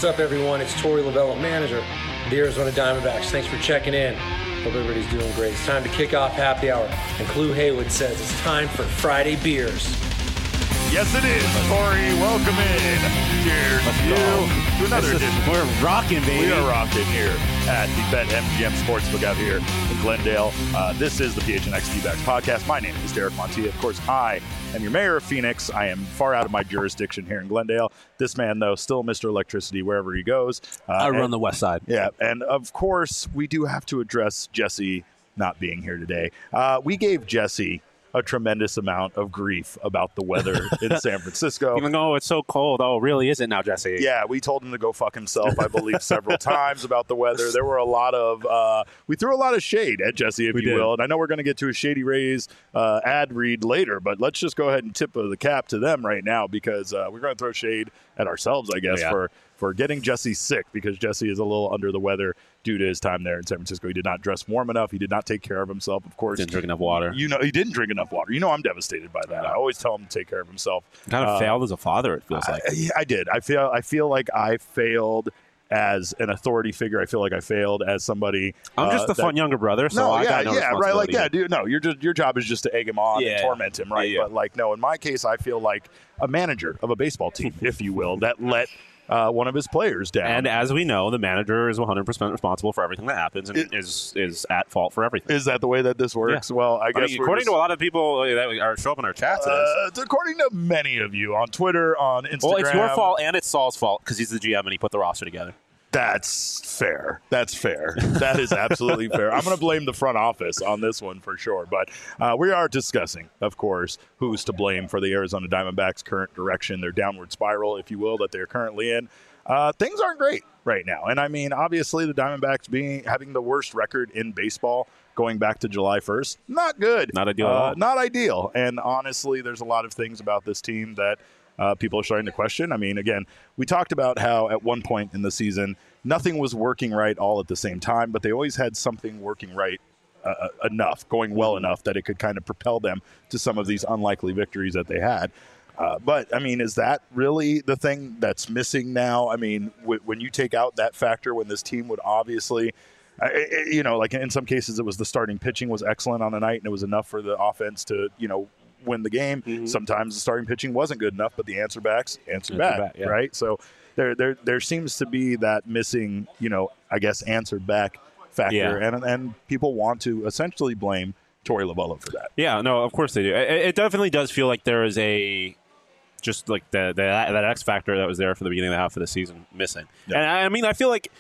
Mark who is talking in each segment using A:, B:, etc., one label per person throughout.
A: What's up, everyone? It's Torey Lovullo, manager of the Arizona Diamondbacks. Thanks for checking in. Hope everybody's doing great. It's time to kick off happy hour. And Clue Haywood says it's time for Friday beers.
B: Yes, it is. Torey, welcome in. Cheers to you to another edition.
C: We're rocking, baby.
B: We are rocking here at the BetMGM Sportsbook out here in Glendale. This is the PHNX D-Backs podcast. My name is Derek Montilla. Of course, I am your mayor of Phoenix. I am far out of my jurisdiction here in Glendale. This man, though, still Mr. Electricity wherever he goes.
C: I run the west side.
B: Yeah, and of course, we do have to address Jesse not being here today. We gave Jesse a tremendous amount of grief about the weather in San Francisco.
C: Even though it's so cold, it really isn't now, Jesse.
B: Yeah, we told him to go fuck himself, I believe, several times about the weather. There were a lot of, we threw a lot of shade at Jesse, if you will. And I know we're going to get to a Shady Rays ad read later, but let's just go ahead and tip the cap to them right now because we're going to throw shade at ourselves, I guess, for getting Jesse sick because Jesse is a little under the weather due to his time there in San Francisco. He did not dress warm enough. He did not take care of himself, of course.
C: Didn't drink enough water.
B: You know, he didn't drink enough water. You know, I'm devastated by that. I always tell him to take care of himself.
C: Kind of failed as a father, it feels like.
B: I did. I feel like I failed as an authority figure. I feel like I failed as somebody.
C: I'm just the fun younger brother, so I got no
B: right. Like, dude, no, your job is just to egg him on and torment him, right? But like, no, in my case, I feel like a manager of a baseball team, if you will, that let one of his players down.
C: And as we know, the manager is 100% responsible for everything that happens and is at fault for everything.
B: Is that the way that this works? Yeah. Well, I guess
C: according to a lot of people that show up in our chats,
B: according to many of you on Twitter, on Instagram.
C: Well, it's your fault and it's Saul's fault because he's the GM and he put the roster together.
B: That's fair. That is absolutely fair. I'm going to blame the front office on this one for sure. But we are discussing, of course, who's to blame for the Arizona Diamondbacks' current direction, their downward spiral, if you will, that they're currently in. Things aren't great right now. And, I mean, obviously the Diamondbacks having the worst record in baseball going back to July 1st, not good.
C: Not ideal at all.
B: Not ideal. And, honestly, there's a lot of things about this team that people are starting to question. I mean, again, we talked about how at one point in the season, nothing was working right all at the same time, but they always had something working right enough, going well enough that it could kind of propel them to some of these unlikely victories that they had. But, I mean, is that really the thing that's missing now? I mean, when you take out that factor, when this team would obviously, like in some cases it was the starting pitching was excellent on the night and it was enough for the offense to, win the game. Mm-hmm. Sometimes the starting pitching wasn't good enough, but the answer back, right? So there seems to be that missing, I guess, answered back factor, and people want to essentially blame Torey Lovullo for that.
C: Yeah, no, of course they do. It definitely does feel like there is just like that X factor that was there for the beginning of the half of the season missing. Yeah. And I mean, I feel like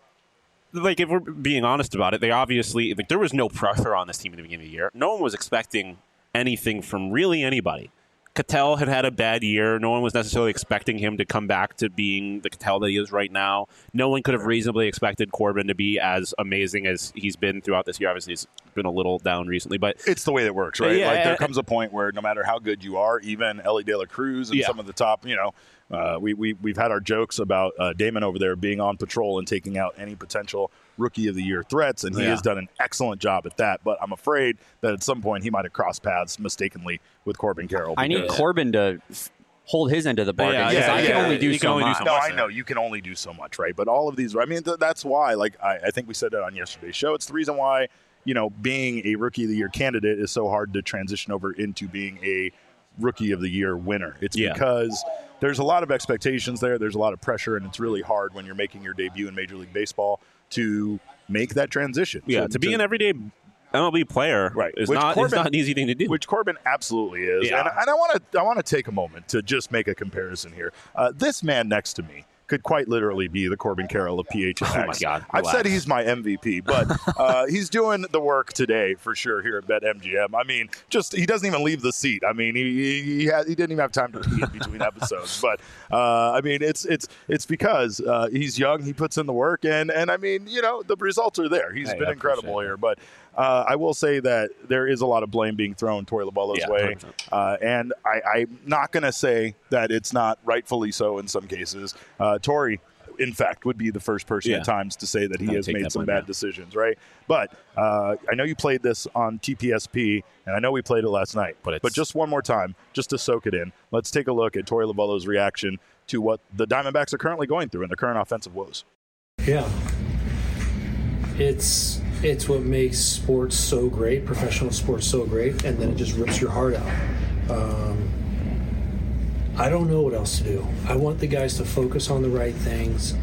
C: if we're being honest about it, they obviously there was no pressure on this team at the beginning of the year. No one was expecting anything from really anybody. Ketel had a bad year. No one was necessarily expecting him to come back to being the Ketel that he is right now. No one could have reasonably expected Corbin to be as amazing as he's been throughout this year. Obviously, he's been a little down recently, but
B: it's the way that works, right? Yeah, there comes a point where no matter how good you are, even Ellie De La Cruz and some of the top, we've had our jokes about Damon over there being on patrol and taking out any potential Rookie of the Year threats, and he has done an excellent job at that. But I'm afraid that at some point he might have crossed paths mistakenly with Corbin Carroll.
D: I need Corbin to hold his end of the bargain. I can only do so much.
B: No, I know you can only do so much, right? But all of these, I mean, that's why. Like I think we said that on yesterday's show. It's the reason why being a Rookie of the Year candidate is so hard to transition over into being a Rookie of the Year winner. It's because there's a lot of expectations there. There's a lot of pressure, and it's really hard when you're making your debut in Major League Baseball to make that transition.
C: Yeah, to be an everyday MLB player is not an easy thing to do.
B: Which Corbin absolutely is. Yeah. And I want to take a moment to just make a comparison here. This man next to me could quite literally be the Corbin Carroll of PHNX.
C: Oh, my God.
B: I've said he's my MVP, but he's doing the work today for sure here at BetMGM. I mean, he doesn't even leave the seat. I mean, he didn't even have time to pee in between episodes. But, I mean, it's because he's young, he puts in the work, and I mean, the results are there. He's been incredible here. But I will say that there is a lot of blame being thrown Torey Lovullo's way. And I'm not going to say that it's not rightfully so in some cases. Torey, in fact, would be the first person at times to say that he has made some bad decisions, right? But I know you played this on TPSP, and I know we played it last night. But just one more time, just to soak it in, let's take a look at Torey Lovullo's reaction to what the Diamondbacks are currently going through in their current offensive woes.
A: Yeah. It's what makes sports so great, professional sports so great, and then it just rips your heart out. I don't know what else to do. I want the guys to focus on the right things,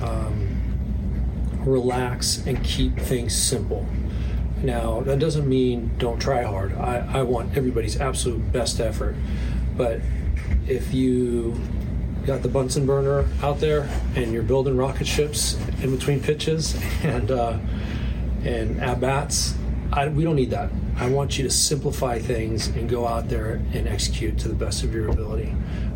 A: relax, and keep things simple. Now, that doesn't mean don't try hard. I want everybody's absolute best effort. But if you got the Bunsen burner out there and you're building rocket ships in between pitches and at-bats, we don't need that. I want you to simplify things and go out there and execute to the best of your ability.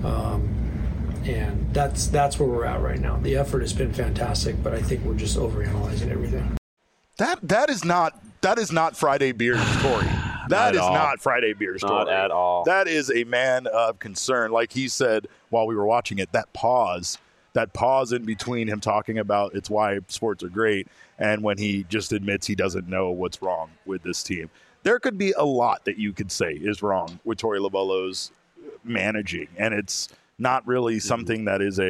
A: And that's where we're at right now. The effort has been fantastic, but I think we're just overanalyzing everything.
B: That is not Friday Beers Torey. That is not Friday Beers Torey.
C: Not at all.
B: That is a man of concern. Like he said while we were watching it, that pause in between him talking about it's why sports are great and when he just admits he doesn't know what's wrong with this team. There could be a lot that you could say is wrong with Torey Lovullo's managing, and it's not really something that is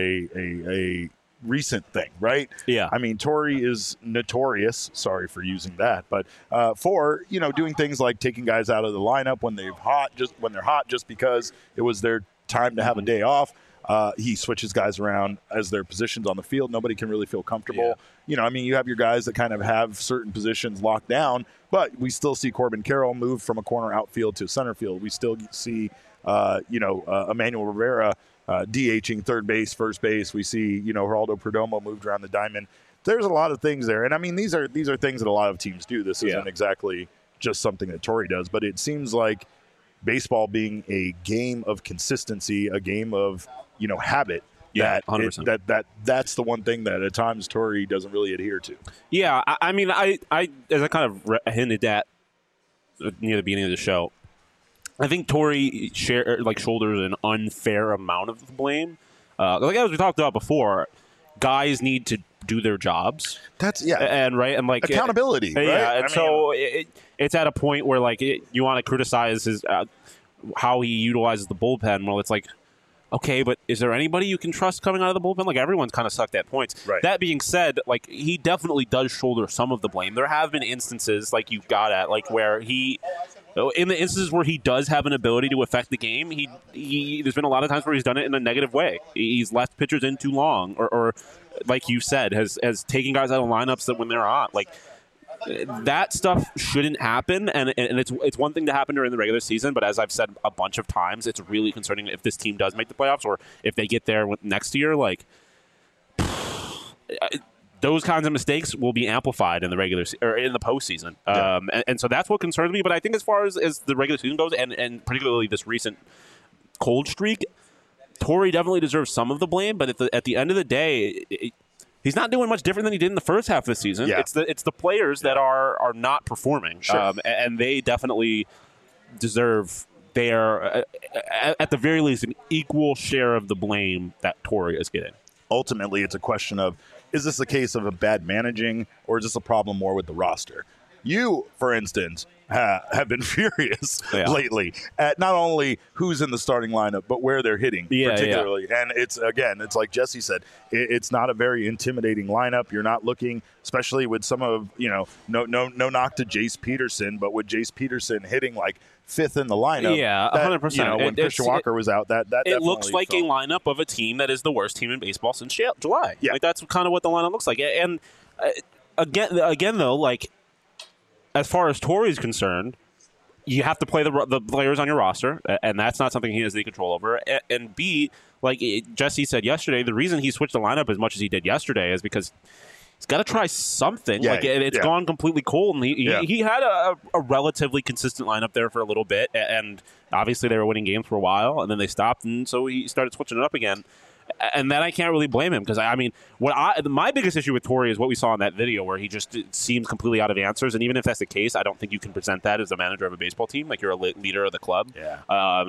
B: a recent thing, right?
C: Yeah.
B: I mean, Torey is notorious, sorry for using that, but for, doing things like taking guys out of the lineup when they're hot just because it was their time to have a day off. He switches guys around as their positions on the field. Nobody can really feel comfortable. Yeah. You have your guys that kind of have certain positions locked down, but we still see Corbin Carroll move from a corner outfield to center field. We still see, Emmanuel Rivera DHing third base, first base. We see, Geraldo Perdomo moved around the diamond. There's a lot of things there. And I mean, these are things that a lot of teams do. This isn't exactly just something that Torey does, but it seems like baseball being a game of consistency, a game of, habit.
C: Yeah, 100%.
B: That's the one thing that at times Torey doesn't really adhere to.
C: Yeah, I mean, I as I kind of hinted at near the beginning of the show, I think Torey shoulders an unfair amount of the blame. As we talked about before, guys need to do their jobs. And like
B: accountability. Right?
C: Yeah, it's at a point where you want to criticize his how he utilizes the bullpen. Well, it's like, okay, but is there anybody you can trust coming out of the bullpen? Everyone's kind of sucked at points.
B: Right.
C: That being said, he definitely does shoulder some of the blame. There have been instances you've got at where he. In the instances where he does have an ability to affect the game, there's been a lot of times where he's done it in a negative way. He's left pitchers in too long, or like you said, has taken guys out of lineups that when they're on. That stuff shouldn't happen, and it's one thing to happen during the regular season, but as I've said a bunch of times, it's really concerning if this team does make the playoffs or if they get there next year. Those kinds of mistakes will be amplified in the regular or in the postseason, and so that's what concerns me. But I think as far as the regular season goes, and particularly this recent cold streak, Torey definitely deserves some of the blame. But at the end of the day, he's not doing much different than he did in the first half of the season.
B: Yeah.
C: It's the players that are not performing, and they definitely deserve. They are at the very least an equal share of the blame that Torey is getting.
B: Ultimately, it's a question of, is this a case of a bad managing, or is this a problem more with the roster? You, for instance, have been furious lately at not only who's in the starting lineup, but where they're hitting particularly. And it's like Jesse said, it's not a very intimidating lineup. You're not looking, especially with some of, no knock to Jace Peterson, but with Jace Peterson hitting fifth in the lineup.
C: Yeah, 100%.
B: When Christian Walker was out, that
C: it looks like a lineup of a team that is the worst team in baseball since July.
B: Yeah.
C: That's kind of what the lineup looks like. And again though, as far as Torey's concerned, you have to play the players on your roster, and that's not something he has any control over. And B, Jesse said yesterday, the reason he switched the lineup as much as he did yesterday is because he's got to try something. It's gone completely cold, and he had a relatively consistent lineup there for a little bit, and obviously they were winning games for a while, and then they stopped, and so he started switching it up again. And then I can't really blame him because, my biggest issue with Torrey is what we saw in that video where he just seems completely out of answers. And even if that's the case, I don't think you can present that as the manager of a baseball team. Like, you're a leader of the club.
B: Yeah.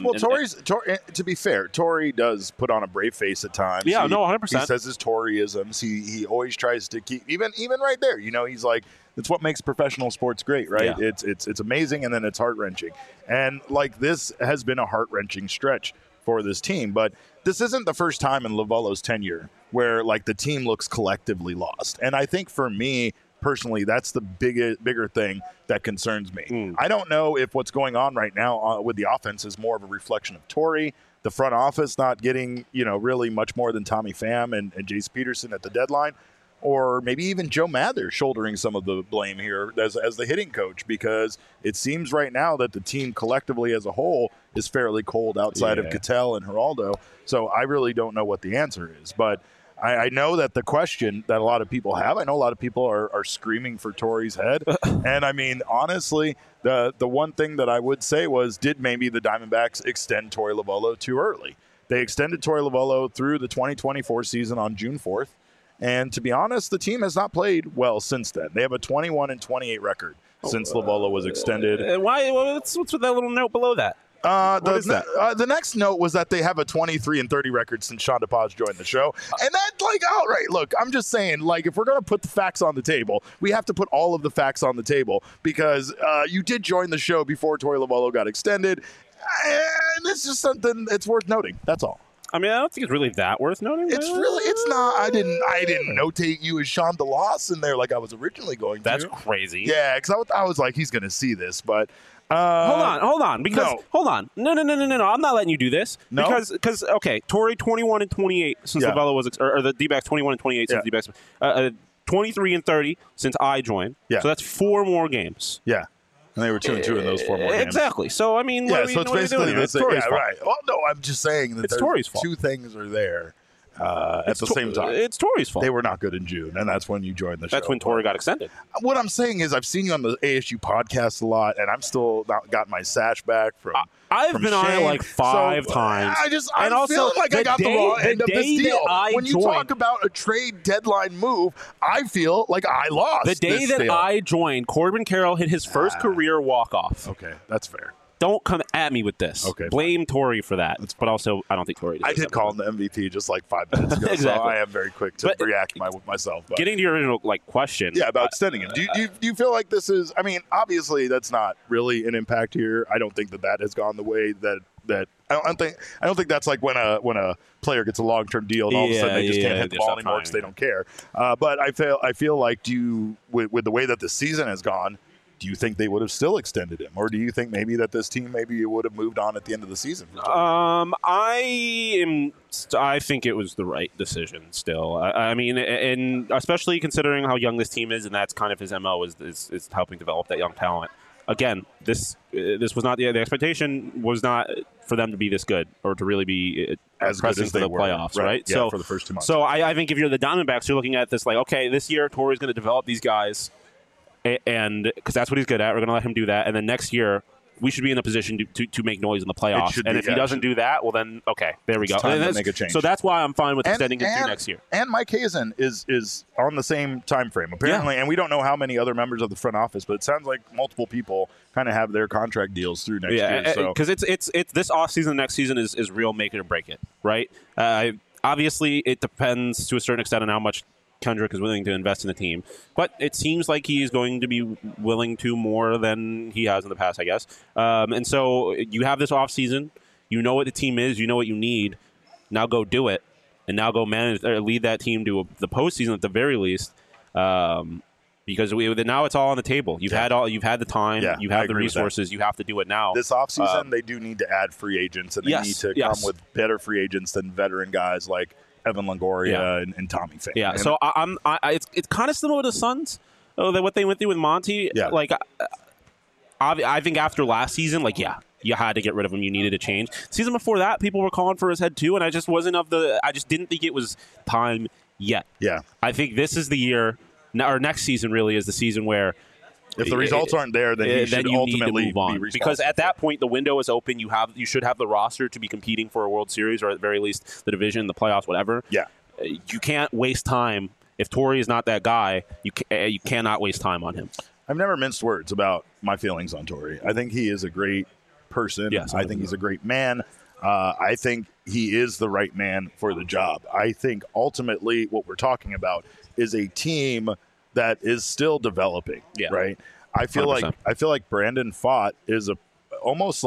B: To be fair, Torrey does put on a brave face at times.
C: Yeah, 100%.
B: He says his Torreyisms. He always tries to keep, even right there, he's like, it's what makes professional sports great, right?
C: Yeah.
B: It's amazing, and then it's heart-wrenching. And, like, this has been a heart-wrenching stretch for this team, but this isn't the first time in Lovullo's tenure where, like, the team looks collectively lost. And I think for me personally, that's the bigger thing that concerns me. I don't know if what's going on right now with the offense is more of a reflection of Torrey, the front office not getting, really much more than Tommy Pham and Jace Peterson at the deadline, or maybe even Joe Mather shouldering some of the blame here as the hitting coach, because it seems right now that the team collectively as a whole is fairly cold outside of Ketel and Geraldo. So I really don't know what the answer is. But I know that the question that a lot of people have, I know a lot of people are screaming for Torrey's head. And, I mean, honestly, the one thing that I would say was, did maybe the Diamondbacks extend Torey Lovullo too early? They extended Torey Lovullo through the 2024 season on June 4th. And to be honest, the team has not played well since then. They have a 21-28 record since Lovullo was extended.
C: Why? What's with that little note below that?
B: The next note was that they have a 23-30 record since Sean DePaz joined the show. And that's like, all right, look, I'm just saying, like, if we're going to put the facts on the table, we have to put all of the facts on the table, because you did join the show before Torey Lovullo got extended. And it's just something that's worth noting. That's all.
C: I mean, I don't think it's really that worth noting.
B: It's not. I didn't notate you as Sean DeLoss in there like I was originally going to.
C: That's crazy.
B: Yeah, because I was like, he's going to see this, but
C: hold on, because hold on, no, I'm not letting you do this.
B: No,
C: because okay, Torrey 21-28 since Lovullo was, or the D-backs 21-28 since D-backs, 23-30 since I joined.
B: Yeah,
C: so that's 4 more games.
B: Yeah. And they were 2-2 in those 4 more games.
C: Exactly. So, I mean,
B: so it's basically
C: it's Torrey's fault.
B: Right. Well, no, I'm just saying that
C: it's Torrey's fault.
B: 2 things are there at the same time.
C: It's Torrey's fault.
B: They were not good in June, and that's when you joined the show.
C: That's when Torrey got extended.
B: What I'm saying is, I've seen you on the ASU podcast a lot, and I'm still not got my sash back from.
C: I've been on it like 5 times.
B: I feel like I got the wrong end of this deal. When you talk about a trade deadline move, I feel like I lost.
C: The day that I joined, Corbin Carroll hit his first career walk-off.
B: Okay, that's fair.
C: Don't come at me with this.
B: Okay,
C: blame Torrey for that. But also, I don't think Torrey
B: I did call him the MVP just like 5 minutes ago,
C: exactly.
B: So I am very quick to react myself. But.
C: Getting to your original question.
B: Yeah, about extending him. Do you feel like this is, I mean, obviously that's not really an impact here. I don't think that has gone the way that I don't think that's like when a player gets a long-term deal and all of a sudden they just can't hit the ball anymore because they don't care. But I feel like with the way that the season has gone, do you think they would have still extended him, or do you think maybe that this team would have moved on at the end of the season?
C: I think it was the right decision. Still, I mean, and especially considering how young this team is, and that's kind of his MO is helping develop that young talent. Again, this was not the expectation was not for them to be this good or to really be
B: as good as
C: for the playoffs, right?
B: Yeah, so for the first 2 months.
C: So I think if you're the Diamondbacks, you're looking at this like, okay, this year Torrey's going to develop these guys. And because that's what he's good at, we're going to let him do that. And then next year, we should be in a position to make noise in the playoffs. And if he doesn't do that, well, then, okay, there we go.
B: Time to make a change.
C: So that's why I'm fine with extending it through next year.
B: And Mike Hazen is on the same time frame, apparently. Yeah. And we don't know how many other members of the front office, but it sounds like multiple people kind of have their contract deals through next year.
C: Because it's this offseason, next season is real make it or break it, right? Obviously, it depends to a certain extent on how much Kendrick is willing to invest in the team, but it seems like he is going to be willing to more than he has in the past, I guess. And so you have this offseason. You know what the team is. You know what you need. Now go do it, and now go manage or lead that team to the postseason at the very least. Because now it's all on the table. You've had the time. Yeah, you have the resources. You have to do it now.
B: This offseason, they do need to add free agents, and they need to come with better free agents than veteran guys like Evan Longoria and Tommy Pham.
C: Yeah, and so it's kind of similar to the Suns, what they went through with Monty.
B: Yeah.
C: Like, I think after last season, you had to get rid of him. You needed a change. Season before that, people were calling for his head too, and I just didn't think it was time yet.
B: Yeah.
C: I think this is the year, or next season really is the season where
B: If the results aren't there, then he should ultimately
C: need to move on.
B: be responsible.
C: Because at that point, the window is open. You should have the roster to be competing for a World Series, or at the very least the division, the playoffs, whatever.
B: Yeah.
C: You can't waste time. If Torrey is not that guy, you cannot waste time on him.
B: I've never minced words about my feelings on Torrey. I think he is a great person.
C: Yes,
B: I think he's a great man. I think he is the right man for the job. I think ultimately what we're talking about is a team that is still developing, right? I feel
C: 100%.
B: like Brandon Pfaadt is almost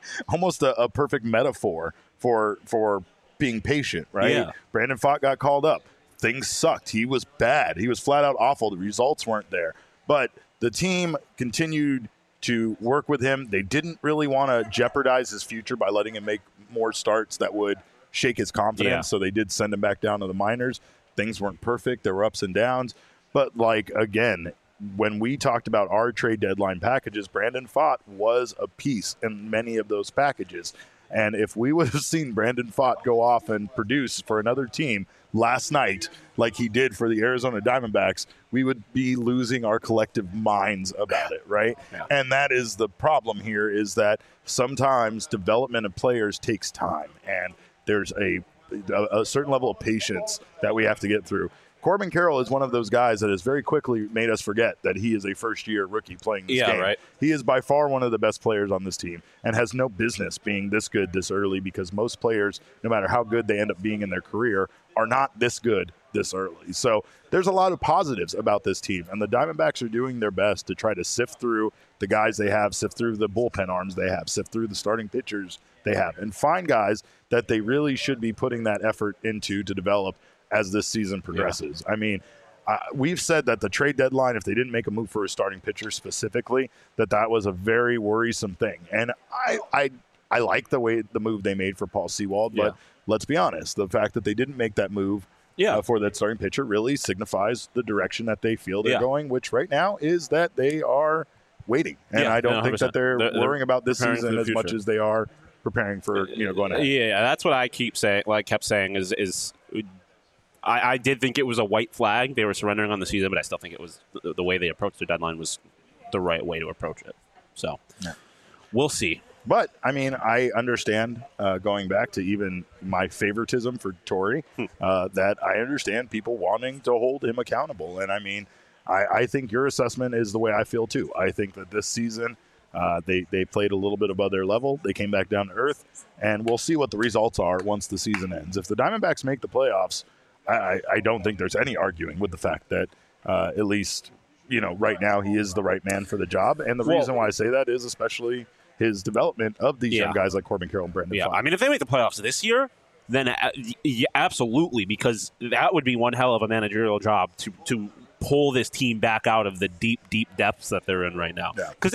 B: a perfect metaphor for being patient, right?
C: Yeah.
B: Brandon Pfaadt got called up. Things sucked. He was bad. He was flat out awful. The results weren't there. But the team continued to work with him. They didn't really want to jeopardize his future by letting him make more starts that would shake his confidence.
C: Yeah.
B: So they did send him back down to the minors. Things weren't perfect. There were ups and downs. But, again, when we talked about our trade deadline packages, Brandon Pfaadt was a piece in many of those packages. And if we would have seen Brandon Pfaadt go off and produce for another team last night like he did for the Arizona Diamondbacks, we would be losing our collective minds about it, right?
C: Yeah.
B: And that is the problem here, is that sometimes development of players takes time, and there's a certain level of patience that we have to get through. Corbin Carroll is one of those guys that has very quickly made us forget that he is a first-year rookie playing this game.
C: Right.
B: He is by far one of the best players on this team and has no business being this good this early, because most players, no matter how good they end up being in their career, are not this good this early. So there's a lot of positives about this team, and the Diamondbacks are doing their best to try to sift through the guys they have, sift through the bullpen arms they have, sift through the starting pitchers they have, and find guys that they really should be putting that effort into to develop as this season progresses. Yeah. I mean, we've said that the trade deadline, if they didn't make a move for a starting pitcher specifically, that was a very worrisome thing. And I like the move they made for Paul Sewald, but let's be honest, the fact that they didn't make that move for that starting pitcher really signifies the direction that they feel they're going, which right now is that they are waiting. And I don't think that they're worrying about this season as much as they are preparing for going ahead.
C: Yeah, that's what I kept saying is I did think it was a white flag. They were surrendering on the season, but I still think it was the way they approached the deadline was the right way to approach it. So we'll see.
B: But, I mean, I understand, going back to even my favoritism for Torrey, that I understand people wanting to hold him accountable. And, I mean, I think your assessment is the way I feel, too. I think that this season they played a little bit above their level. They came back down to earth, and we'll see what the results are once the season ends. If the Diamondbacks make the playoffs, I don't think there's any arguing with the fact that at least, right now he is the right man for the job. And the reason why I say that is especially his development of these young guys like Corbin Carroll and Brandon Pfaadt.
C: I mean, if they make the playoffs this year, then absolutely, because that would be one hell of a managerial job to pull this team back out of the deep, deep depths that they're in right now. Because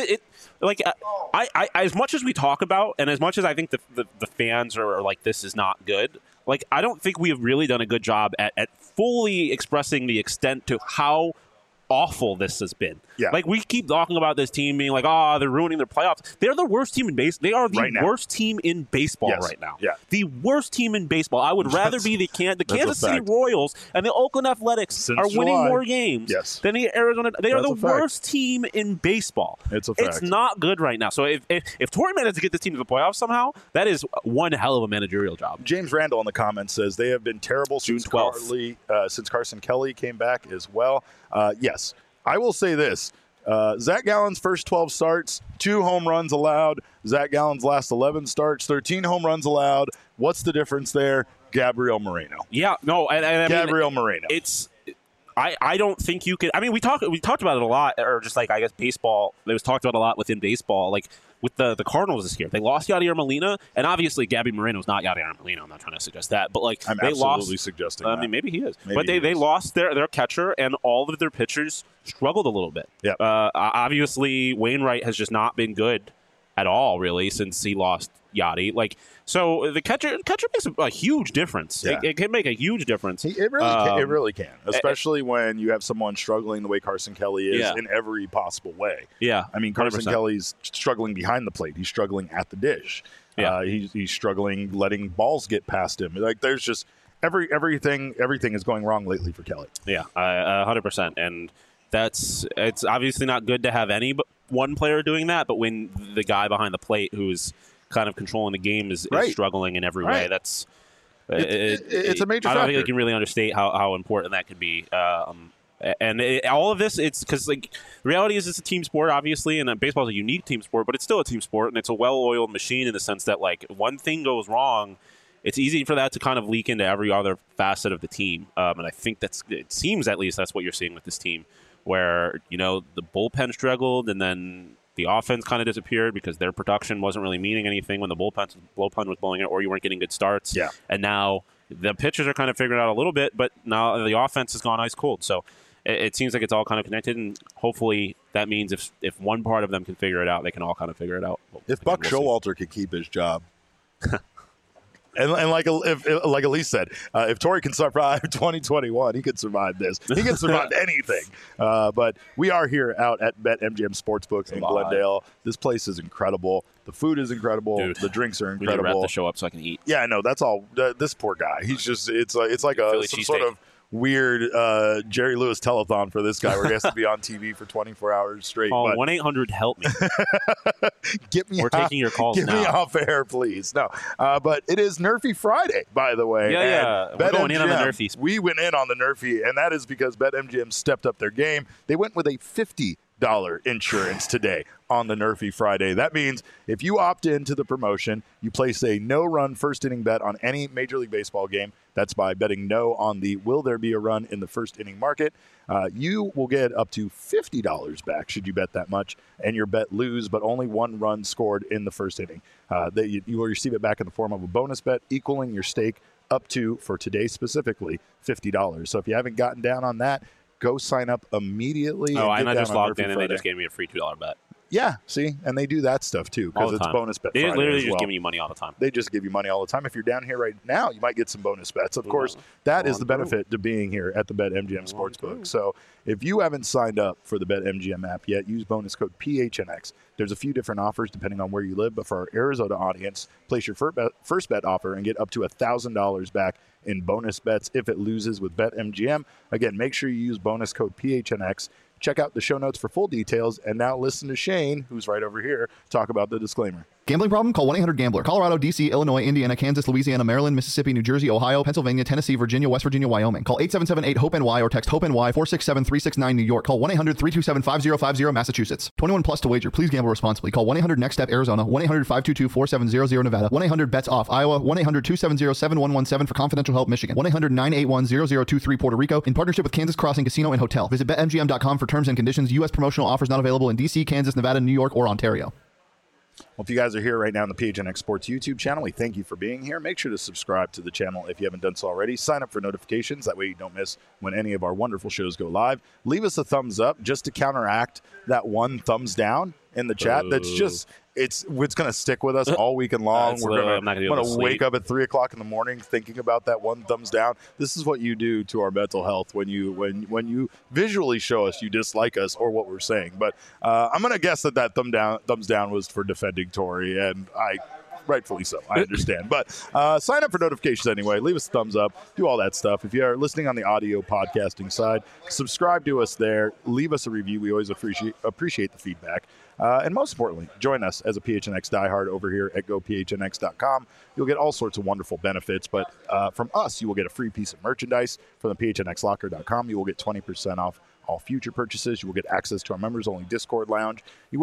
C: I as much as we talk about, and as much as I think the fans are like, this is not good, I don't think we have really done a good job at fully expressing the extent to how awful this has been.
B: Yeah.
C: We keep talking about this team being they're ruining their playoffs. They're the worst team in baseball. They are the worst team in baseball right now.
B: Yeah.
C: The worst team in baseball. I would rather be the Kansas City Royals and the Oakland Athletics are winning more games than the Arizona. They are the worst team in baseball.
B: It's a fact.
C: It's not good right now. So if Torrey manages to get this team to the playoffs somehow, that is one hell of a managerial job.
B: James Randall in the comments says they have been terrible since Carson Kelly came back as well. Yes. I will say this. Zach Gallen's first 12 starts, 2 home runs allowed. Zach Gallen's last 11 starts, 13 home runs allowed. What's the difference there? Gabriel Moreno.
C: Yeah, no, and
B: Gabriel Moreno.
C: I don't think you could. I mean, we talked about it a lot, or just I guess baseball. It was talked about a lot within baseball, with the Cardinals this year. They lost Yadier Molina, and obviously Gabby Moreno's not Yadier Molina. I'm not trying to suggest that, but
B: I'm
C: they
B: absolutely
C: lost.
B: Suggesting.
C: I mean, maybe he is, but they lost their catcher, and all of their pitchers struggled a little bit.
B: Yeah.
C: Obviously, Wainwright has just not been good at all, really, since he lost Yadi. So the catcher makes a huge difference.
B: Yeah.
C: It can make a huge difference.
B: It really can, especially when you have someone struggling the way Carson Kelly is in every possible way.
C: Yeah,
B: I mean, Carson
C: 100%.
B: Kelly's struggling behind the plate. He's struggling at the dish.
C: Yeah.
B: He's struggling letting balls get past him. There's just everything is going wrong lately for Kelly.
C: Yeah, 100%. And it's obviously not good to have any but one player doing that, but when the guy behind the plate who's kind of controlling the game is struggling in every way, that's
B: it's a major factor.
C: I don't think I can really understate how important that could be. And all of this, it's because the reality is it's a team sport, obviously, and baseball is a unique team sport, but it's still a team sport, and it's a well-oiled machine in the sense that one thing goes wrong, it's easy for that to kind of leak into every other facet of the team. And I think it seems at least that's what you're seeing with this team, where the bullpen struggled, and then the offense kind of disappeared because their production wasn't really meaning anything when the bullpen was blowing it, or you weren't getting good starts.
B: Yeah.
C: And now the pitchers are kind of figuring it out a little bit, but now the offense has gone ice cold. So it seems like it's all kind of connected, and hopefully that means if one part of them can figure it out, they can all kind of figure it out.
B: If Buck Showalter could keep his job. And like Elise said, if Torey can survive 2021, he could survive this. He can survive anything. But we are here out at BetMGM Sportsbook in Glendale. This place is incredible. The food is incredible. Dude, the drinks are incredible.
C: We need to wrap the show up so I can eat.
B: Yeah, I know. That's all. This poor guy. He's just. It's like some sort of weird Jerry Lewis telethon for this guy where he has to be on TV for 24 hours straight.
C: Call 1-800-HELP me. We're taking your calls
B: now. Get me off air, please. No, but it is Nerfy Friday, by the way.
C: Yeah. We're going in on the Nerfies.
B: We went in on the Nerfy, and that is because BetMGM stepped up their game. They went with a $50 insurance today on the Nerfy Friday. That means if you opt into the promotion, you place a no-run first-inning bet on any Major League Baseball game. That's by betting no on the will there be a run in the first-inning market. You will get up to $50 back should you bet that much, and your bet lose, but only one run scored in the first inning. You will receive it back in the form of a bonus bet, equaling your stake up to, for today specifically, $50. So if you haven't gotten down on that, go sign up immediately.
C: Oh, and I just logged in and they just gave me a free $2 bet.
B: Yeah, see? And they do that stuff too because it's bonus bet Friday.
C: They literally just give you money all the time.
B: They just give you money all the time. If you're down here right now, you might get some bonus bets. Of course, that is the benefit to being here at the BetMGM Sportsbook. So if you haven't signed up for the BetMGM app yet, use bonus code PHNX. There's a few different offers depending on where you live, but for our Arizona audience, place your first bet offer and get up to $1,000 back in bonus bets if it loses with BetMGM. Again, make sure you use bonus code PHNX. Check out the show notes for full details. And now listen to Shane, who's right over here, talk about the disclaimer.
E: Gambling problem? Call 1-800-GAMBLER. Colorado, D.C., Illinois, Indiana, Kansas, Louisiana, Maryland, Mississippi, New Jersey, Ohio, Pennsylvania, Tennessee, Virginia, West Virginia, Wyoming. Call 877-8-HOPE-NY or text HOPE-NY 467-369 New York. Call 1-800-327-5050 Massachusetts. 21 plus to wager. Please gamble responsibly. Call 1-800-NEXT-STEP Arizona. 1-800-522-4700 Nevada. 1-800-BETS-OFF Iowa. 1-800-270-7117 for confidential help Michigan. 1-800-981-0023 Puerto Rico. In partnership with Kansas Crossing Casino and Hotel. Visit BetMGM.com for terms and conditions. U.S. promotional offers not available in D.C., Kansas, Nevada, New York, or Ontario.
B: Well, if you guys are here right now on the PHNX Sports YouTube channel, we thank you for being here. Make sure to subscribe to the channel if you haven't done so already. Sign up for notifications. That way you don't miss when any of our wonderful shows go live. Leave us a thumbs up just to counteract that one thumbs down in the chat. That's just, it's going to stick with us all weekend long. We're going to wake up at 3 o'clock in the morning thinking about that one thumbs down. This is what you do to our mental health when you visually show us you dislike us or what we're saying. But I'm going to guess that thumbs down was for defending Torey, and rightfully so. I understand. But sign up for notifications anyway. Leave us a thumbs up. Do all that stuff. If you are listening on the audio podcasting side, subscribe to us there. Leave us a review. We always appreciate the feedback. And most importantly, join us as a PHNX diehard over here at GoPHNX.com. You'll get all sorts of wonderful benefits, but from us, you will get a free piece of merchandise. From the PHNXLocker.com, you will get 20% off all future purchases. You will get access to our members-only Discord lounge.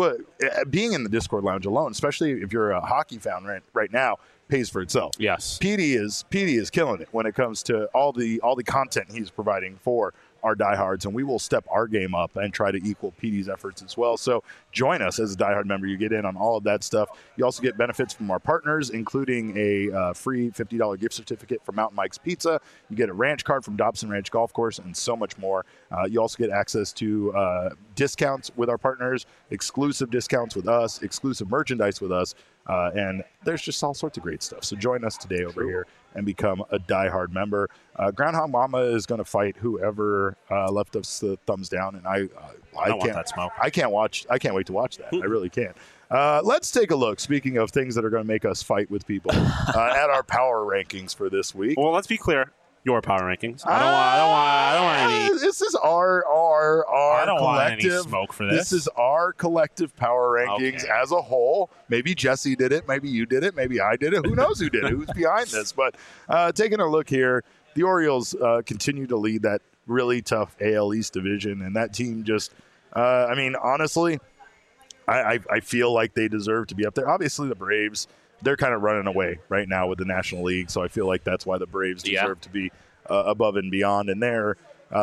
B: Being in the Discord lounge alone, especially if you're a hockey fan right now, pays for itself.
C: Yes,
B: PD is killing it when it comes to all the content he's providing for our diehards, and we will step our game up and try to equal PD's efforts as well. So join us as a diehard member. You get in on all of that stuff. You also get benefits from our partners, including a free $50 gift certificate from Mountain Mike's Pizza. You get a ranch card from Dobson Ranch Golf Course, and so much more. You also get access to discounts with our partners, exclusive discounts with us, exclusive merchandise with us, and there's just all sorts of great stuff. So join us today over here and become a diehard member. Groundhog Mama is going to fight whoever left us the thumbs down, and I
C: don't want that smoke.
B: I can't wait to watch that. I really can't. Let's take a look, speaking of things that are going to make us fight with people, at our power rankings for this week.
C: Well, let's be clear. your power rankings. I don't want any.
B: This is our
C: I don't
B: collective.
C: want any smoke for this.
B: This is our collective power rankings as a whole. Maybe Jesse did it. Maybe you did it. Maybe I did it. Who knows who did it? Who's behind this? But taking a look here, the Orioles continue to lead that really tough AL East division, and that team just, honestly, I feel like they deserve to be up there. Obviously, the Braves, they're kind of running away right now with the National League, so I feel like that's why the Braves deserve to be above and beyond. And their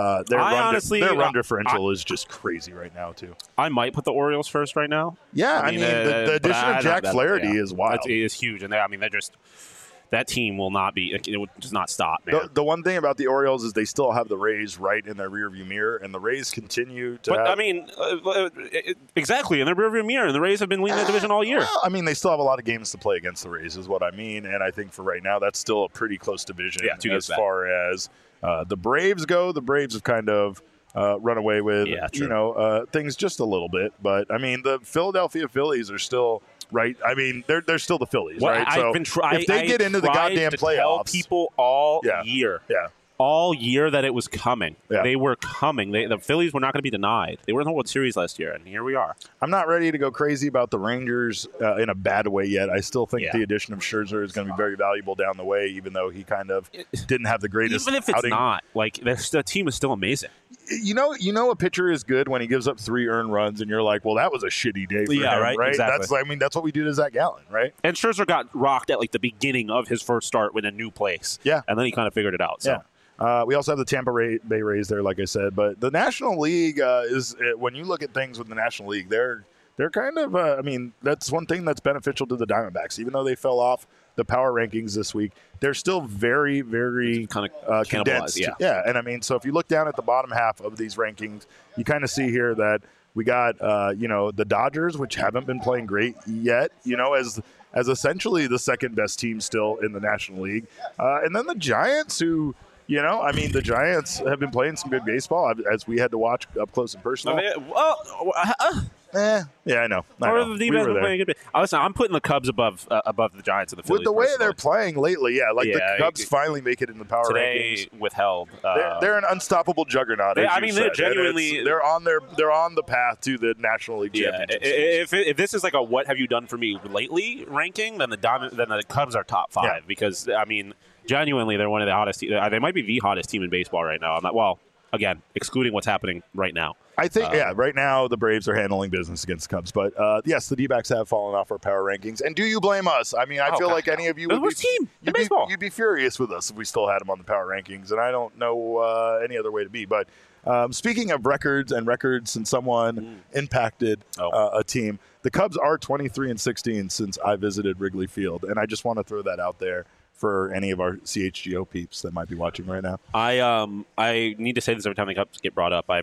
B: run differential is just crazy right now too.
C: I might put the Orioles first right now.
B: Yeah, the addition of Jack Flaherty is wild.
C: It is huge, and they're just. That team will not be. It will just not stop, man.
B: The one thing about the Orioles is they still have the Rays right in their rearview mirror, and the Rays continue to.
C: Exactly in their rearview mirror, and the Rays have been leading the division all year.
B: Well, they still have a lot of games to play against the Rays, is what I mean. And I think for right now, that's still a pretty close division.
C: Yeah,
B: as far as the Braves go, the Braves have kind of run away with things just a little bit. But the Philadelphia Phillies are still. Right, they're still the Phillies, right? So if they get into the goddamn playoffs,
C: tell people all year, all year that it was coming.
B: Yeah.
C: They were coming. The Phillies were not going to be denied. They were in the World Series last year, and here we are.
B: I'm not ready to go crazy about the Rangers in a bad way yet. I still think the addition of Scherzer is going to be very valuable down the way, even though he kind of didn't have the greatest.
C: Even if it's
B: outing.
C: Not the team is still amazing.
B: You know, a pitcher is good when he gives up 3 earned runs, and you're like, well, that was a shitty day for him, right?
C: Exactly.
B: That's what we do to Zach Gallen, right?
C: And Scherzer got rocked at the beginning of his first start in a new place.
B: Yeah,
C: and then he kind of figured it out. So.
B: Yeah. We also have the Tampa Bay Rays there, like I said. But the National League is when you look at things with the National League, they're kind of that's one thing that's beneficial to the Diamondbacks. Even though they fell off the power rankings this week, they're still very, very
C: kind of
B: condensed.
C: Yeah,
B: and so if you look down at the bottom half of these rankings, you kind of see here that we got the Dodgers, which haven't been playing great yet, as essentially the second best team still in the National League, and then the Giants, who. The Giants have been playing some good baseball, as we had to watch up close and personal. Yeah, I know.
C: Listen, I'm putting the Cubs above the Giants and the Phillies.
B: With the way they're playing lately, the Cubs finally make it in the power rankings.
C: Today withheld.
B: They're an unstoppable juggernaut.
C: They're genuinely.
B: They're on the path to the National League championship.
C: If this is a what have you done for me lately ranking, then the Cubs are top 5 because genuinely they're one of the hottest. They might be the hottest team in baseball right now. Again, excluding what's happening right now.
B: I think, right now the Braves are handling business against the Cubs. But, yes, the D-backs have fallen off our power rankings. And do you blame us? I feel like any of you you'd be furious with us if we still had them on the power rankings. And I don't know any other way to be. But speaking of records and someone impacted a team, the Cubs are 23-16 since I visited Wrigley Field. And I just want to throw that out there for any of our CHGO peeps that might be watching right now.
C: I need to say this every time the Cubs get brought up.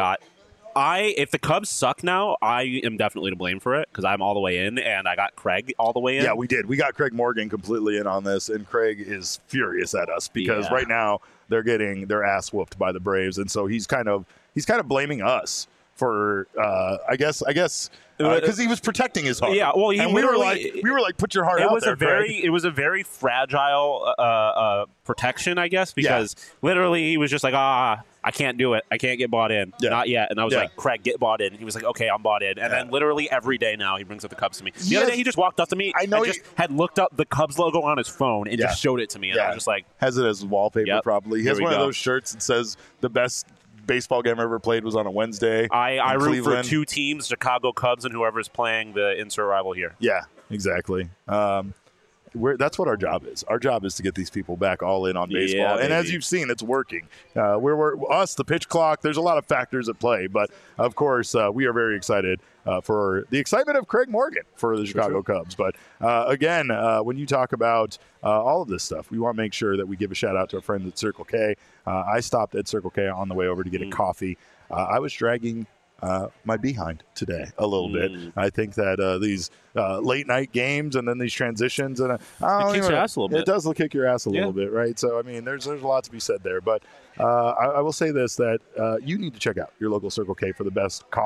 C: If the Cubs suck now, I am definitely to blame for it because I'm all the way in, and I got Craig all the way in.
B: Yeah, we did. We got Craig Morgan completely in on this, and Craig is furious at us because right now they're getting their ass whooped by the Braves, and so he's kind of blaming us for I guess because he was protecting his heart.
C: Yeah, well,
B: we were like, put your heart out there.
C: It was a very fragile protection, I guess, because literally he was just like, I can't do it. I can't get bought in. Yeah. Not yet. And I was like, Craig, get bought in. And he was like, okay, I'm bought in. And then literally every day now he brings up the Cubs to me. The other day he just walked up to me and just had looked up the Cubs logo on his phone and just showed it to me. And I was just like.
B: Has it as wallpaper probably. He has one of those shirts that says the best baseball game I ever played was on a Wednesday.
C: I root for 2 teams, Chicago Cubs and whoever's playing the insert rival here.
B: Yeah, exactly. That's what our job is. Our job is to get these people back all in on baseball. And as you've seen, it's working. We're us, the pitch clock, there's a lot of factors at play. But, of course, we are very excited for the excitement of Craig Morgan for the Chicago Cubs. But, again, when you talk about all of this stuff, we want to make sure that we give a shout-out to our friends at Circle K. I stopped at Circle K on the way over to get a coffee. I was dragging my behind today a little bit. I think that these late night games and then these transitions and
C: it kicks your ass a little bit.
B: It does kick your ass a little bit, right? So there's a lot to be said there. But I will say this: that you need to check out your local Circle K for the best coffee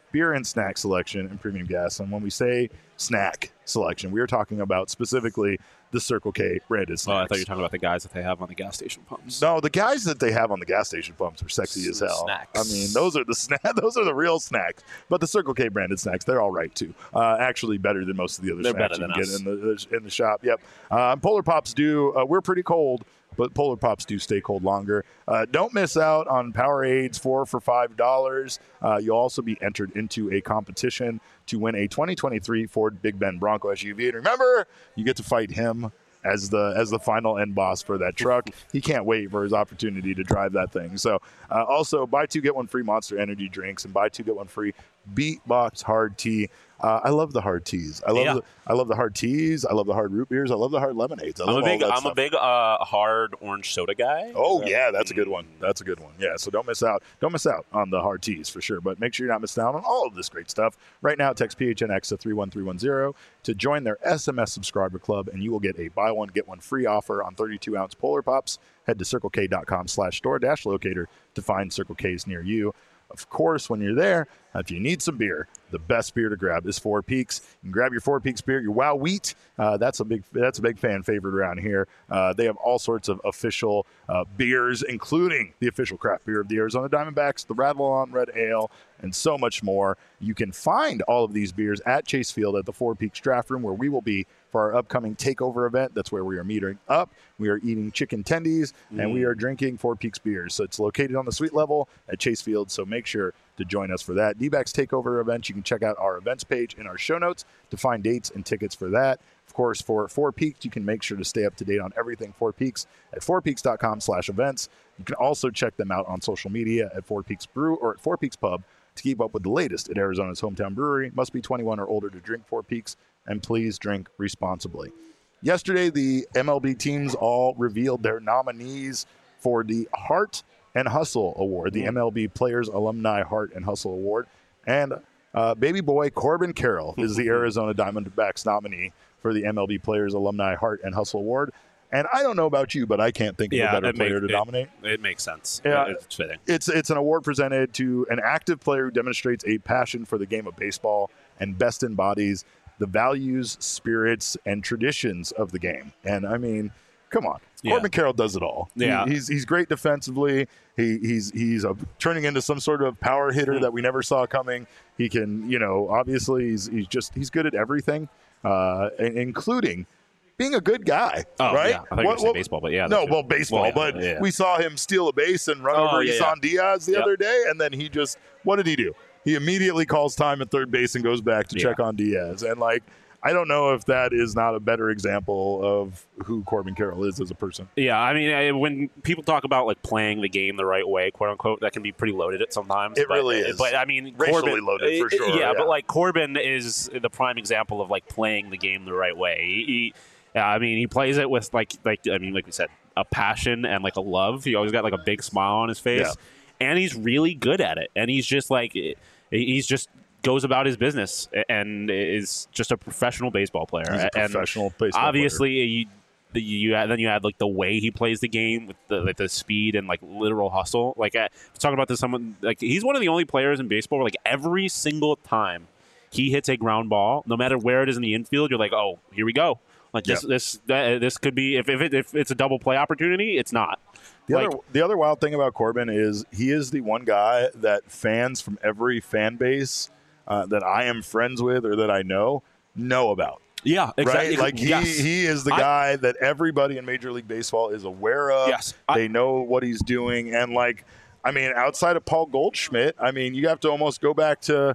B: beer and snack selection and premium gas. And when we say snack selection, we are talking about specifically the Circle K branded snacks.
C: Oh, I thought you were talking about the guys that they have on the gas station pumps.
B: No, the guys that they have on the gas station pumps are sexy as hell.
C: Snacks.
B: I mean, those are the real snacks. But the Circle K branded snacks, they're all right too. Actually, better than most of the other snacks you can get in the shop. Yep. Polar Pops do. We're pretty cold, but Polar Pops do stay cold longer. Don't miss out on Powerades 4 for $5. You'll also be entered into a competition to win a 2023 Ford Big Bend Bronco SUV. And remember, you get to fight him as the final end boss for that truck. He can't wait for his opportunity to drive that thing. So also buy 2 get 1 free Monster Energy drinks and buy 2 get 1 free Beatbox hard tea. I love the hard teas. I love the hard teas. I love the hard root beers. I love the hard lemonades. I'm a big
C: hard orange soda guy.
B: Oh yeah, that's a good one. That's a good one. Yeah, so don't miss out. Don't miss out on the hard teas for sure. But make sure you're not missing out on all of this great stuff. Right now, text PHNX to 31310 to join their SMS subscriber club, and you will get a buy one get one free offer on 32-ounce Polar Pops. Head to circlek.com/store-locator to find Circle K's near you. Of course, when you're there, if you need some beer, the best beer to grab is Four Peaks. You can grab your Four Peaks beer, your Wow Wheat. That's a big fan favorite around here. They have all sorts of official beers, including the official craft beer of the Arizona Diamondbacks, the Rattle On Red Ale, and so much more. You can find all of these beers at Chase Field at the Four Peaks Draft Room, where we will be for our upcoming takeover event. That's where we are meeting up. We are eating chicken tendies, and we are drinking Four Peaks beers. So it's located on the suite level at Chase Field, so make sure to join us for that. D-backs takeover event. You can check out our events page in our show notes to find dates and tickets for that. Of course, for Four Peaks, you can make sure to stay up to date on everything Four Peaks at fourpeaks.com/events. You can also check them out on social media at Four Peaks Brew or at Four Peaks Pub to keep up with the latest at Arizona's hometown brewery. Must be 21 or older to drink Four Peaks, and please drink responsibly. Yesterday, the MLB teams all revealed their nominees for the Heart and Hustle Award, the MLB Players Alumni Heart and Hustle Award. And baby boy Corbin Carroll is the Arizona Diamondbacks nominee for the MLB Players Alumni Heart and Hustle Award. And I don't know about you, but I can't think of a better player to nominate.
C: It makes sense.
B: Yeah,
C: it's fitting.
B: It's an award presented to an active player who demonstrates a passion for the game of baseball and best embodies the values, spirits, and traditions of the game. And I mean, come on. Corbin Carroll does it all.
C: Yeah.
B: He's great defensively. He's turning into some sort of power hitter that we never saw coming. He can, obviously he's good at everything, including being a good guy, right?
C: Yeah. I thought you were saying baseball, but yeah.
B: Baseball. But we saw him steal a base and run over Isan Diaz the other day, and then what did he do? He immediately calls time at third base and goes back to check on Diaz. And, I don't know if that is not a better example of who Corbin Carroll is as a person.
C: Yeah, I mean, when people talk about playing the game the right way, quote unquote, that can be pretty loaded at sometimes.
B: Really is.
C: But I mean,
B: racially loaded for sure.
C: Yeah, but Corbin is the prime example of playing the game the right way. He plays it with like we said, a passion and a love. He always got a big smile on his face, and he's really good at it. And he's just goes about his business and is just a professional baseball player.
B: He's a professional baseball
C: obviously, player. You add the way he plays the game with the speed and literal hustle. Talking about this, he's one of the only players in baseball where every single time he hits a ground ball, no matter where it is in the infield, you're oh, here we go. This could be if it's a double play opportunity, it's not.
B: The other wild thing about Corbin is he is the one guy that fans from every fan base that I am friends with or that I know about.
C: Yeah, exactly.
B: Right? He is the guy that everybody in Major League Baseball is aware of.
C: Yes.
B: They know what he's doing. And, outside of Paul Goldschmidt, you have to almost go back to,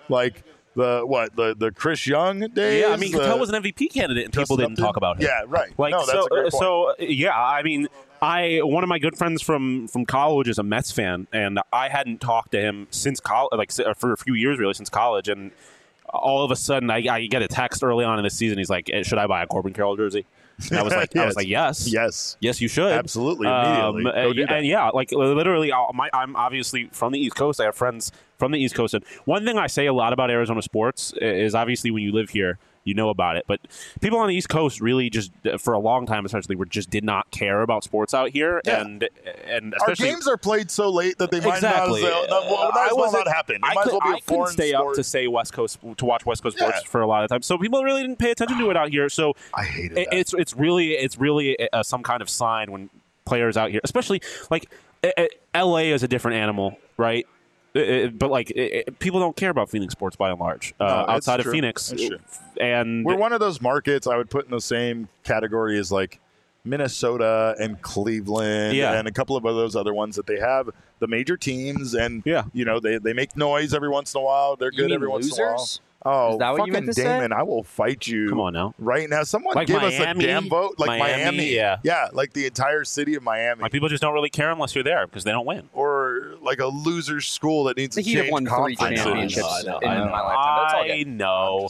B: the Chris Young days.
C: Yeah, Cattell was an MVP candidate and people didn't talk about him.
B: Yeah, right. That's a great point.
C: So, one of my good friends from college is a Mets fan, and I hadn't talked to him since college, for a few years really, since college, and all of a sudden I get a text early on in the season. He's like, "Should I buy a Corbin Carroll jersey?" And I was like, yes, you should,
B: absolutely, immediately. Go do that.
C: And yeah, like literally, I'm obviously from the East Coast. I have friends from the East Coast, and one thing I say a lot about Arizona sports is obviously when you live here, you know about it. But people on the East Coast really just, for a long time, essentially, did not care about sports out here. Yeah. And especially,
B: our games are played so late that they might not happen.
C: I couldn't stay up to say West Coast to watch West Coast sports for a lot of time. So people really didn't pay attention to it out here. So
B: I hated that.
C: It's really some kind of sign when players out here, especially like LA is a different animal, right? But people don't care about Phoenix sports by and large outside of Phoenix. And
B: we're one of those markets I would put in the same category as like Minnesota and Cleveland and a couple of those other ones that they have the major teams and they make noise every once in a while. They're good every once in a while. Oh,
D: is that what you meant to
B: Damon,
D: say?
B: I will fight you.
C: Come on now.
B: Right now. Someone
C: like
B: give
C: Miami,
B: us a damn vote. Like Miami.
C: Yeah,
B: like the entire city of Miami.
C: Like people just don't really care unless you're there because they don't win.
B: Or like a loser school that needs to change
D: won 3 championships in my lifetime. That's all
C: I know.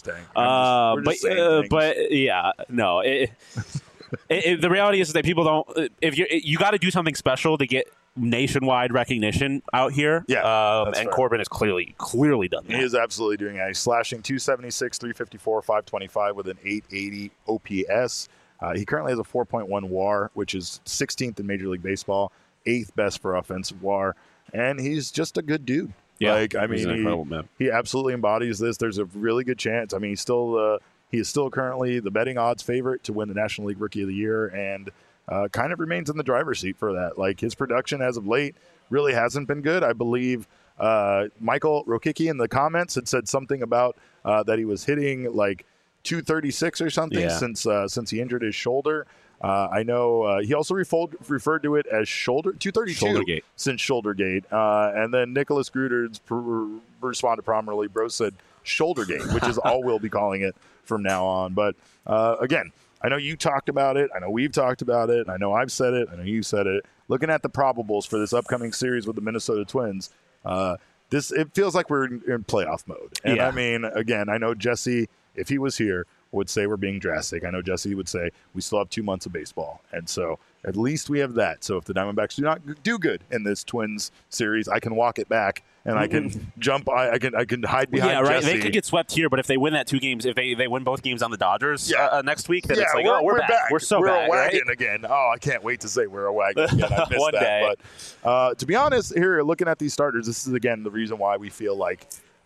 C: The reality is that people don't. If you got to do something special to get nationwide recognition out here. And Corbin has clearly done that.
B: He is absolutely doing it. He's slashing 276, 354, 525 with an 880 OPS. He currently has a 4.1 WAR, which is 16th in Major League Baseball, 8th best for offensive WAR, and he's just a good dude.
C: Yeah,
B: he's an incredible man. He absolutely embodies this. There's a really good chance. I mean, he is still currently the betting odds favorite to win the National League Rookie of the Year, and kind of remains in the driver's seat for that. Like his production as of late really hasn't been good. I believe Michael Rokicki in the comments had said something about that he was hitting like 236 or something since he injured his shoulder. I know he also referred to it as 232 since Shouldergate. And then Nicholas Gruters responded prominently. Bro said Shouldergate, which is all we'll be calling it from now on. But again, I know you talked about it. I know we've talked about it. I know I've said it. I know you said it. Looking at the probables for this upcoming series with the Minnesota Twins, it feels like we're in playoff mode. And I mean, again, I know Jesse, if he was here, would say we're being drastic. I know Jesse would say we still have 2 months of baseball. And so at least we have that. So if the Diamondbacks do not do good in this Twins series, I can walk it back and I can jump. I can hide behind Jesse.
C: They could get swept here, but if they win that 2 games, if they win both games on the Dodgers next week, then it's like, we're back. We're
B: a wagon again. Oh, I can't wait to say we're a wagon again. I missed
C: One
B: that.
C: day.
B: But to be honest, here looking at these starters, this is again the reason why we feel like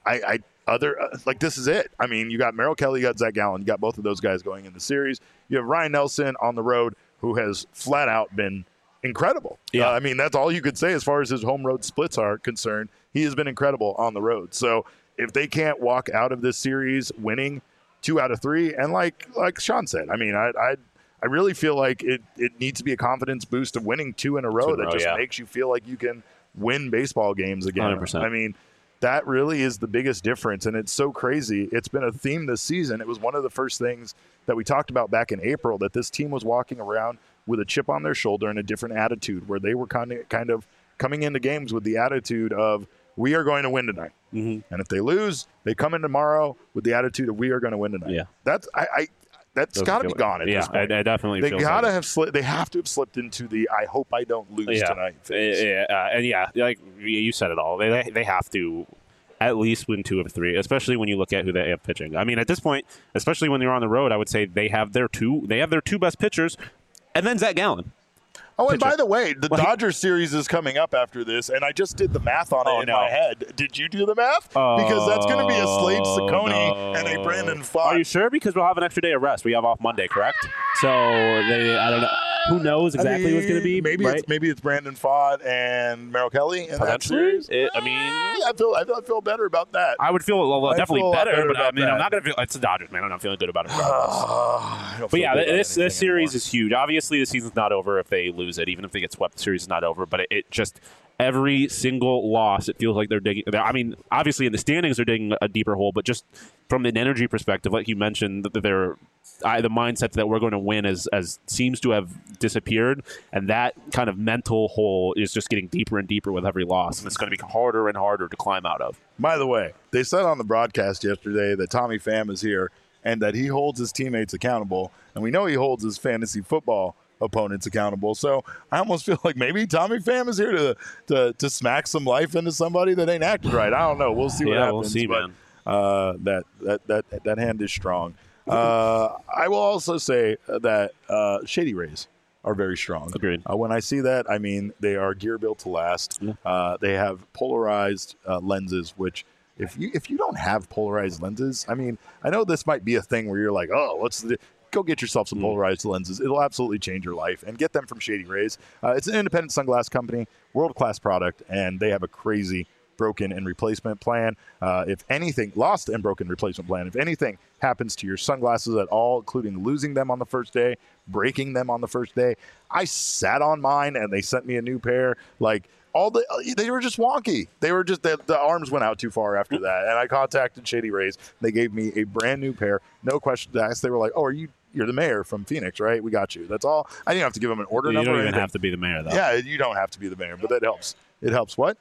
B: this is it. I mean, you got Merrill Kelly, you got Zach Gallen, you got both of those guys going in the series. You have Ryan Nelson on the road, who has flat out been incredible.
C: Yeah.
B: I mean, that's all you could say as far as his home road splits are concerned. He has been incredible on the road. So if they can't walk out of this series winning 2 out of 3, and like Sean said, I mean, I really feel like it needs to be a confidence boost of winning 2 in a row that just makes you feel like you can win baseball games again.
C: 100%.
B: I mean, that really is the biggest difference, and it's so crazy. It's been a theme this season. It was one of the first things that we talked about back in April, that this team was walking around with a chip on their shoulder and a different attitude, where they were kind of coming into games with the attitude of, we are going to win tonight. Mm-hmm. And if they lose, they come in tomorrow with the attitude of, we are going to win tonight.
C: Yeah.
B: That's got to be gone at this point.
C: I definitely
B: they
C: feel
B: gotta have they have to have slipped into the I hope I don't lose tonight phase.
C: Like you said it all. They have to at least win 2 of 3, especially when you look at who they have pitching. I mean, at this point, especially when you're on the road, I would say they have their two best pitchers, and then Zach Gallen.
B: Oh, and by the way, the Dodgers series is coming up after this, and I just did the math on it in my head. Did you do the math? Because that's going to be a Slade Ciccone and a Brandon Pfaadt.
C: Are you sure? Because we'll have an extra day of rest. We have off Monday, correct? So I don't know. Who knows exactly what's going to be?
B: Maybe it's Brandon Pfaadt and Merrill Kelly in that series. I feel better about that.
C: I would feel definitely better, but I mean, I'm not going to feel. It's the Dodgers, man. I'm not feeling good about it. But yeah, this series is huge. Obviously, the season's not over if they lose it. Even if they get swept, the series is not over. But it just, every single loss, it feels like they're digging. I mean, obviously in the standings they're digging a deeper hole, but just from an energy perspective, like you mentioned, the mindset that we're going to win as seems to have disappeared, and that kind of mental hole is just getting deeper and deeper with every loss, and it's going to become harder and harder to climb out of.
B: By the way, they said on the broadcast yesterday that Tommy Pham is here, and that he holds his teammates accountable. And we know he holds his fantasy football opponents accountable. So I almost feel like maybe Tommy Pham is here to smack some life into somebody that ain't acting right. I don't know. We'll see what happens.
C: We'll see,
B: but,
C: man.
B: That hand is strong. I will also say that Shady Rays are very strong.
C: Agreed.
B: When I see that, I mean they are gear built to last.
C: Yeah.
B: They have polarized lenses, which if you don't have polarized lenses, I mean, I know this might be a thing where you're like, oh, go get yourself some polarized lenses. It'll absolutely change your life, and get them from Shady Rays. It's an independent sunglass company, world-class product, and they have a crazy broken and replacement plan. If anything, lost and broken replacement plan. If anything happens to your sunglasses at all, including losing them on the first day, breaking them on the first day, I sat on mine and they sent me a new pair. Like they were just wonky. They were just the arms went out too far after that. And I contacted Shady Rays. They gave me a brand new pair, no questions asked. They were like, "Oh, you're the mayor from Phoenix, right? We got you." That's all. I didn't have to give them an order number.
C: You don't even have to be the mayor, though.
B: Yeah, you don't have to be the mayor, but that helps. It helps. What?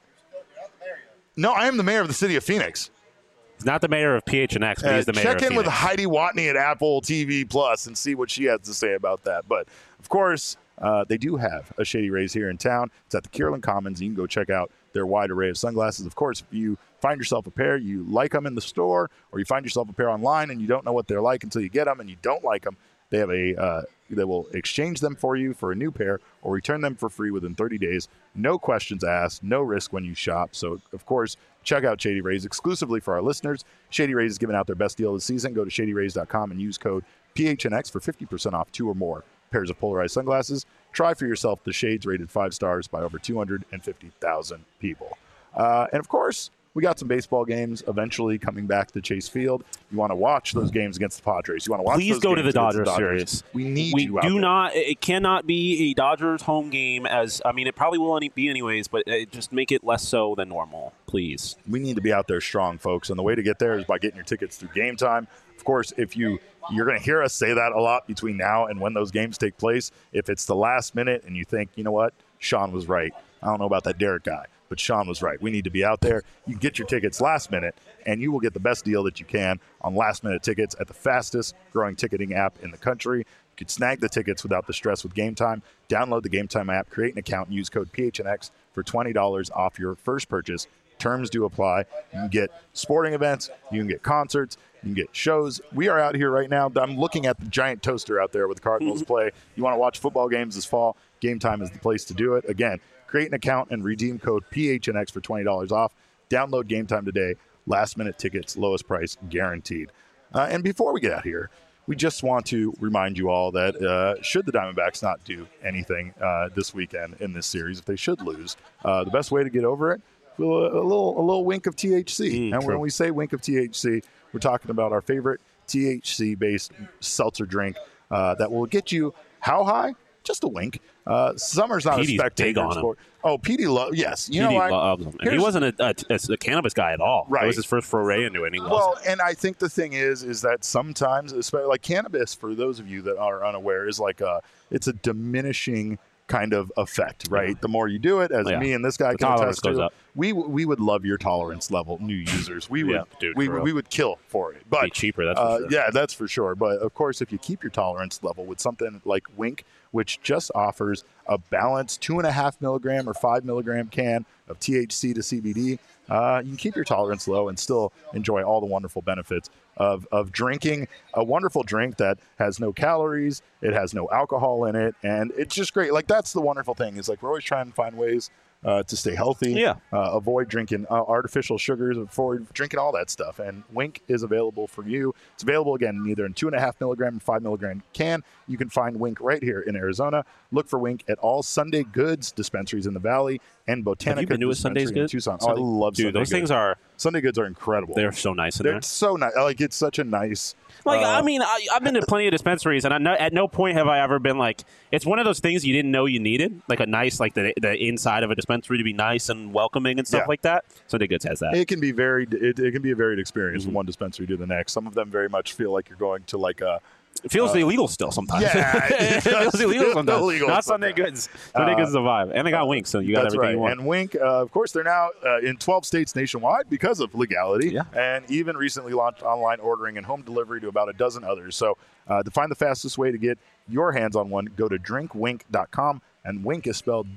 B: No, I am the mayor of the city of Phoenix.
C: He's not the mayor of PHNX, but he's the mayor of Phoenix.
B: Check in with Heidi Watney at Apple TV Plus and see what she has to say about that. But, of course, they do have a Shady Rays here in town. It's at the Kierland Commons. You can go check out their wide array of sunglasses. Of course, if you find yourself a pair, you like them in the store, or you find yourself a pair online and you don't know what they're like until you get them and you don't like them, they have they will exchange them for you for a new pair or return them for free within 30 days. No questions asked, no risk when you shop. So, of course, check out Shady Rays exclusively for our listeners. Shady Rays is giving out their best deal of the season. Go to shadyrays.com and use code PHNX for 50% off 2 or more pairs of polarized sunglasses. Try for yourself the shades rated 5 stars by over 250,000 people. And, of course, we got some baseball games eventually coming back to Chase Field. You want to watch those games against the Padres. You want to watch
C: Please
B: those
C: go
B: games
C: to the
B: against
C: Dodgers series.
B: We need
C: we
B: you out
C: do
B: there.
C: not. It cannot be a Dodgers home game. It probably will be anyways, but just make it less so than normal, please.
B: We need to be out there strong, folks. And the way to get there is by getting your tickets through Game Time. Of course, if you're going to hear us say that a lot between now and when those games take place. If it's the last minute and you think, you know what, Sean was right. I don't know about that Derek guy, but Sean was right. We need to be out there. You can get your tickets last minute, and you will get the best deal that you can on last-minute tickets at the fastest-growing ticketing app in the country. You can snag the tickets without the stress with Game Time. Download the Game Time app, create an account, and use code PHNX for $20 off your first purchase. Terms do apply. You can get sporting events. You can get concerts. You can get shows. We are out here right now. I'm looking at the giant toaster out there with the Cardinals play. You want to watch football games this fall? Game Time is the place to do it. Again, create an account and redeem code PHNX for $20 off. Download Game Time today. Last-minute tickets, lowest price guaranteed. And before we get out here, we just want to remind you all that should the Diamondbacks not do anything this weekend in this series, if they should lose, the best way to get over it, a little wink of THC. And when we say wink of THC, we're talking about our favorite THC-based seltzer drink that will get you how high? Just a wink. Summer's not
C: Petey's
B: a spectator sport. Oh, Petey loves. Yes, you know what?
C: Loves him. And he wasn't a cannabis guy at all.
B: Right.
C: It was his first foray into it.
B: And I think the thing is that sometimes, especially like cannabis, for those of you that are unaware, is like it's a diminishing kind of effect, right? Yeah. The more you do it, as me and this guy can attest to, we would love your tolerance level, new users. We would, we would kill for it. But
C: be cheaper, that's for sure.
B: Yeah, that's for sure. But of course, if you keep your tolerance level with something like Wink, which just offers a balanced 2.5 milligram or 5 milligram can of THC to CBD, you can keep your tolerance low and still enjoy all the wonderful benefits of drinking a wonderful drink that has no calories, it has no alcohol in it, and it's just great. Like, that's the wonderful thing, is like we're always trying to find ways to stay healthy, avoid drinking artificial sugars, avoid drinking all that stuff. And Wink is available for you. It's available, again, either in 2.5 milligram and 5 milligram can. You can find Wink right here in Arizona. Look for Wink at all Sunday Goods dispensaries in the Valley and Botanica.
C: Have you been to a Sunday's Goods?
B: Tucson. Oh, I love Sunday
C: those
B: Goods. Sunday Goods are incredible.
C: They're so nice in there.
B: They're so nice. Like, it's such a nice...
C: I mean, I've been to plenty of dispensaries, and at no point have I ever been like, it's one of those things you didn't know you needed, like a nice, like the inside of a dispensary to be nice and welcoming and stuff like that. Sunday Goods has that.
B: It can be it can be a varied experience from one dispensary to the next. Some of them very much feel like you're going to like a
C: It feels illegal still sometimes.
B: Yeah,
C: it feels illegal sometimes.
B: Illegal
C: Not Sunday Goods. Sunday Goods is a vibe. And they got Wink, so you got everything you want.
B: And Wink, of course, they're now in 12 states nationwide because of legality.
C: Yeah.
B: And even recently launched online ordering and home delivery to about a dozen others. So to find the fastest way to get your hands on one, go to drinkwink.com. And Wink is spelled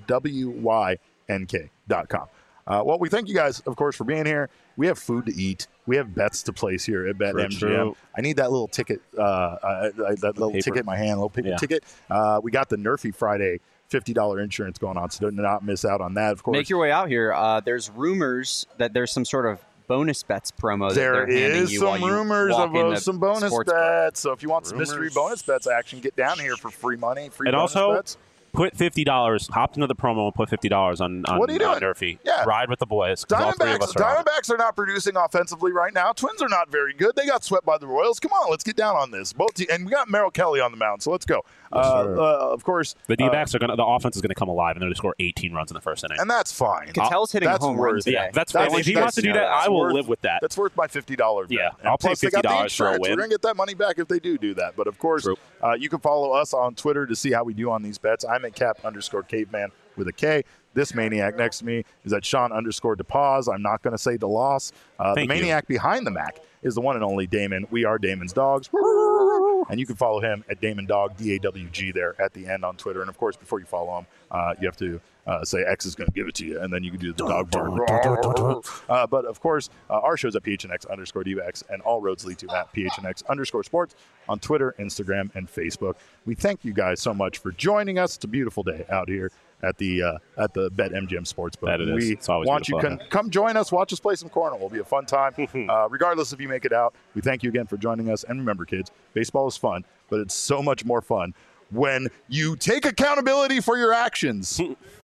B: WYNK.com. Well, we thank you guys, of course, for being here. We have food to eat. We have bets to place here at BetMGM.
C: True.
B: I need that little ticket, ticket in my hand, little paper ticket. We got the Nerfy Friday $50 insurance going on, so do not miss out on that, of course.
D: Make your way out here. There's rumors that there's some sort of bonus bets promo.
B: There is some rumors of some bonus
D: bets.
B: So if you want some mystery bonus bets action, get down here for free money, free
C: and
B: bonus
C: also,
B: bets.
C: Put $50. Hop into the promo and put $50 on
B: What are you doing?
C: Nerfy.
B: Yeah.
C: Ride with the boys. All three of us are on it.
B: Diamondbacks are not producing offensively right now. Twins are not very good. They got swept by the Royals. Come on, let's get down on this. And we got Merrill Kelly on the mound, so let's go. Of course,
C: the D-backs are the offense is going to come alive, and they're going to score 18 runs in the first inning.
B: And that's fine.
D: Cattell's hitting a home run today.
C: Yeah, that's fine. If he wants to do that, I will live with that.
B: That's worth my $50 bet.
C: Yeah,
B: And
C: I'll pay
B: plus, they got the
C: $50 for a
B: insurance.
C: win.
B: We're going to get that money back if they do that. But, of course, you can follow us on Twitter to see how we do on these bets. I'm at Cap_caveman with a K. This maniac next to me is at Sean_DePaz. I'm not going to say DeLoss. The maniac behind the Mac is the one and only Damon. We are Damon's Dogs. And you can follow him at Damon Dog, DAWG there at the end on Twitter. And, of course, before you follow him, you have to say X is going to give it to you, and then you can do the dog bark. But, of course, our show's at PHNX_DVX, and all roads lead to at PHNX_sports on Twitter, Instagram, and Facebook. We thank you guys so much for joining us. It's a beautiful day out here at the BetMGM Sportsbook.
C: That it is.
B: We
C: It's always
B: want you
C: beautiful.
B: come join us, watch us play some corner. It'll be a fun time. Regardless if you make it out, we thank you again for joining us. And remember, kids, baseball is fun, but it's so much more fun when you take accountability for your actions.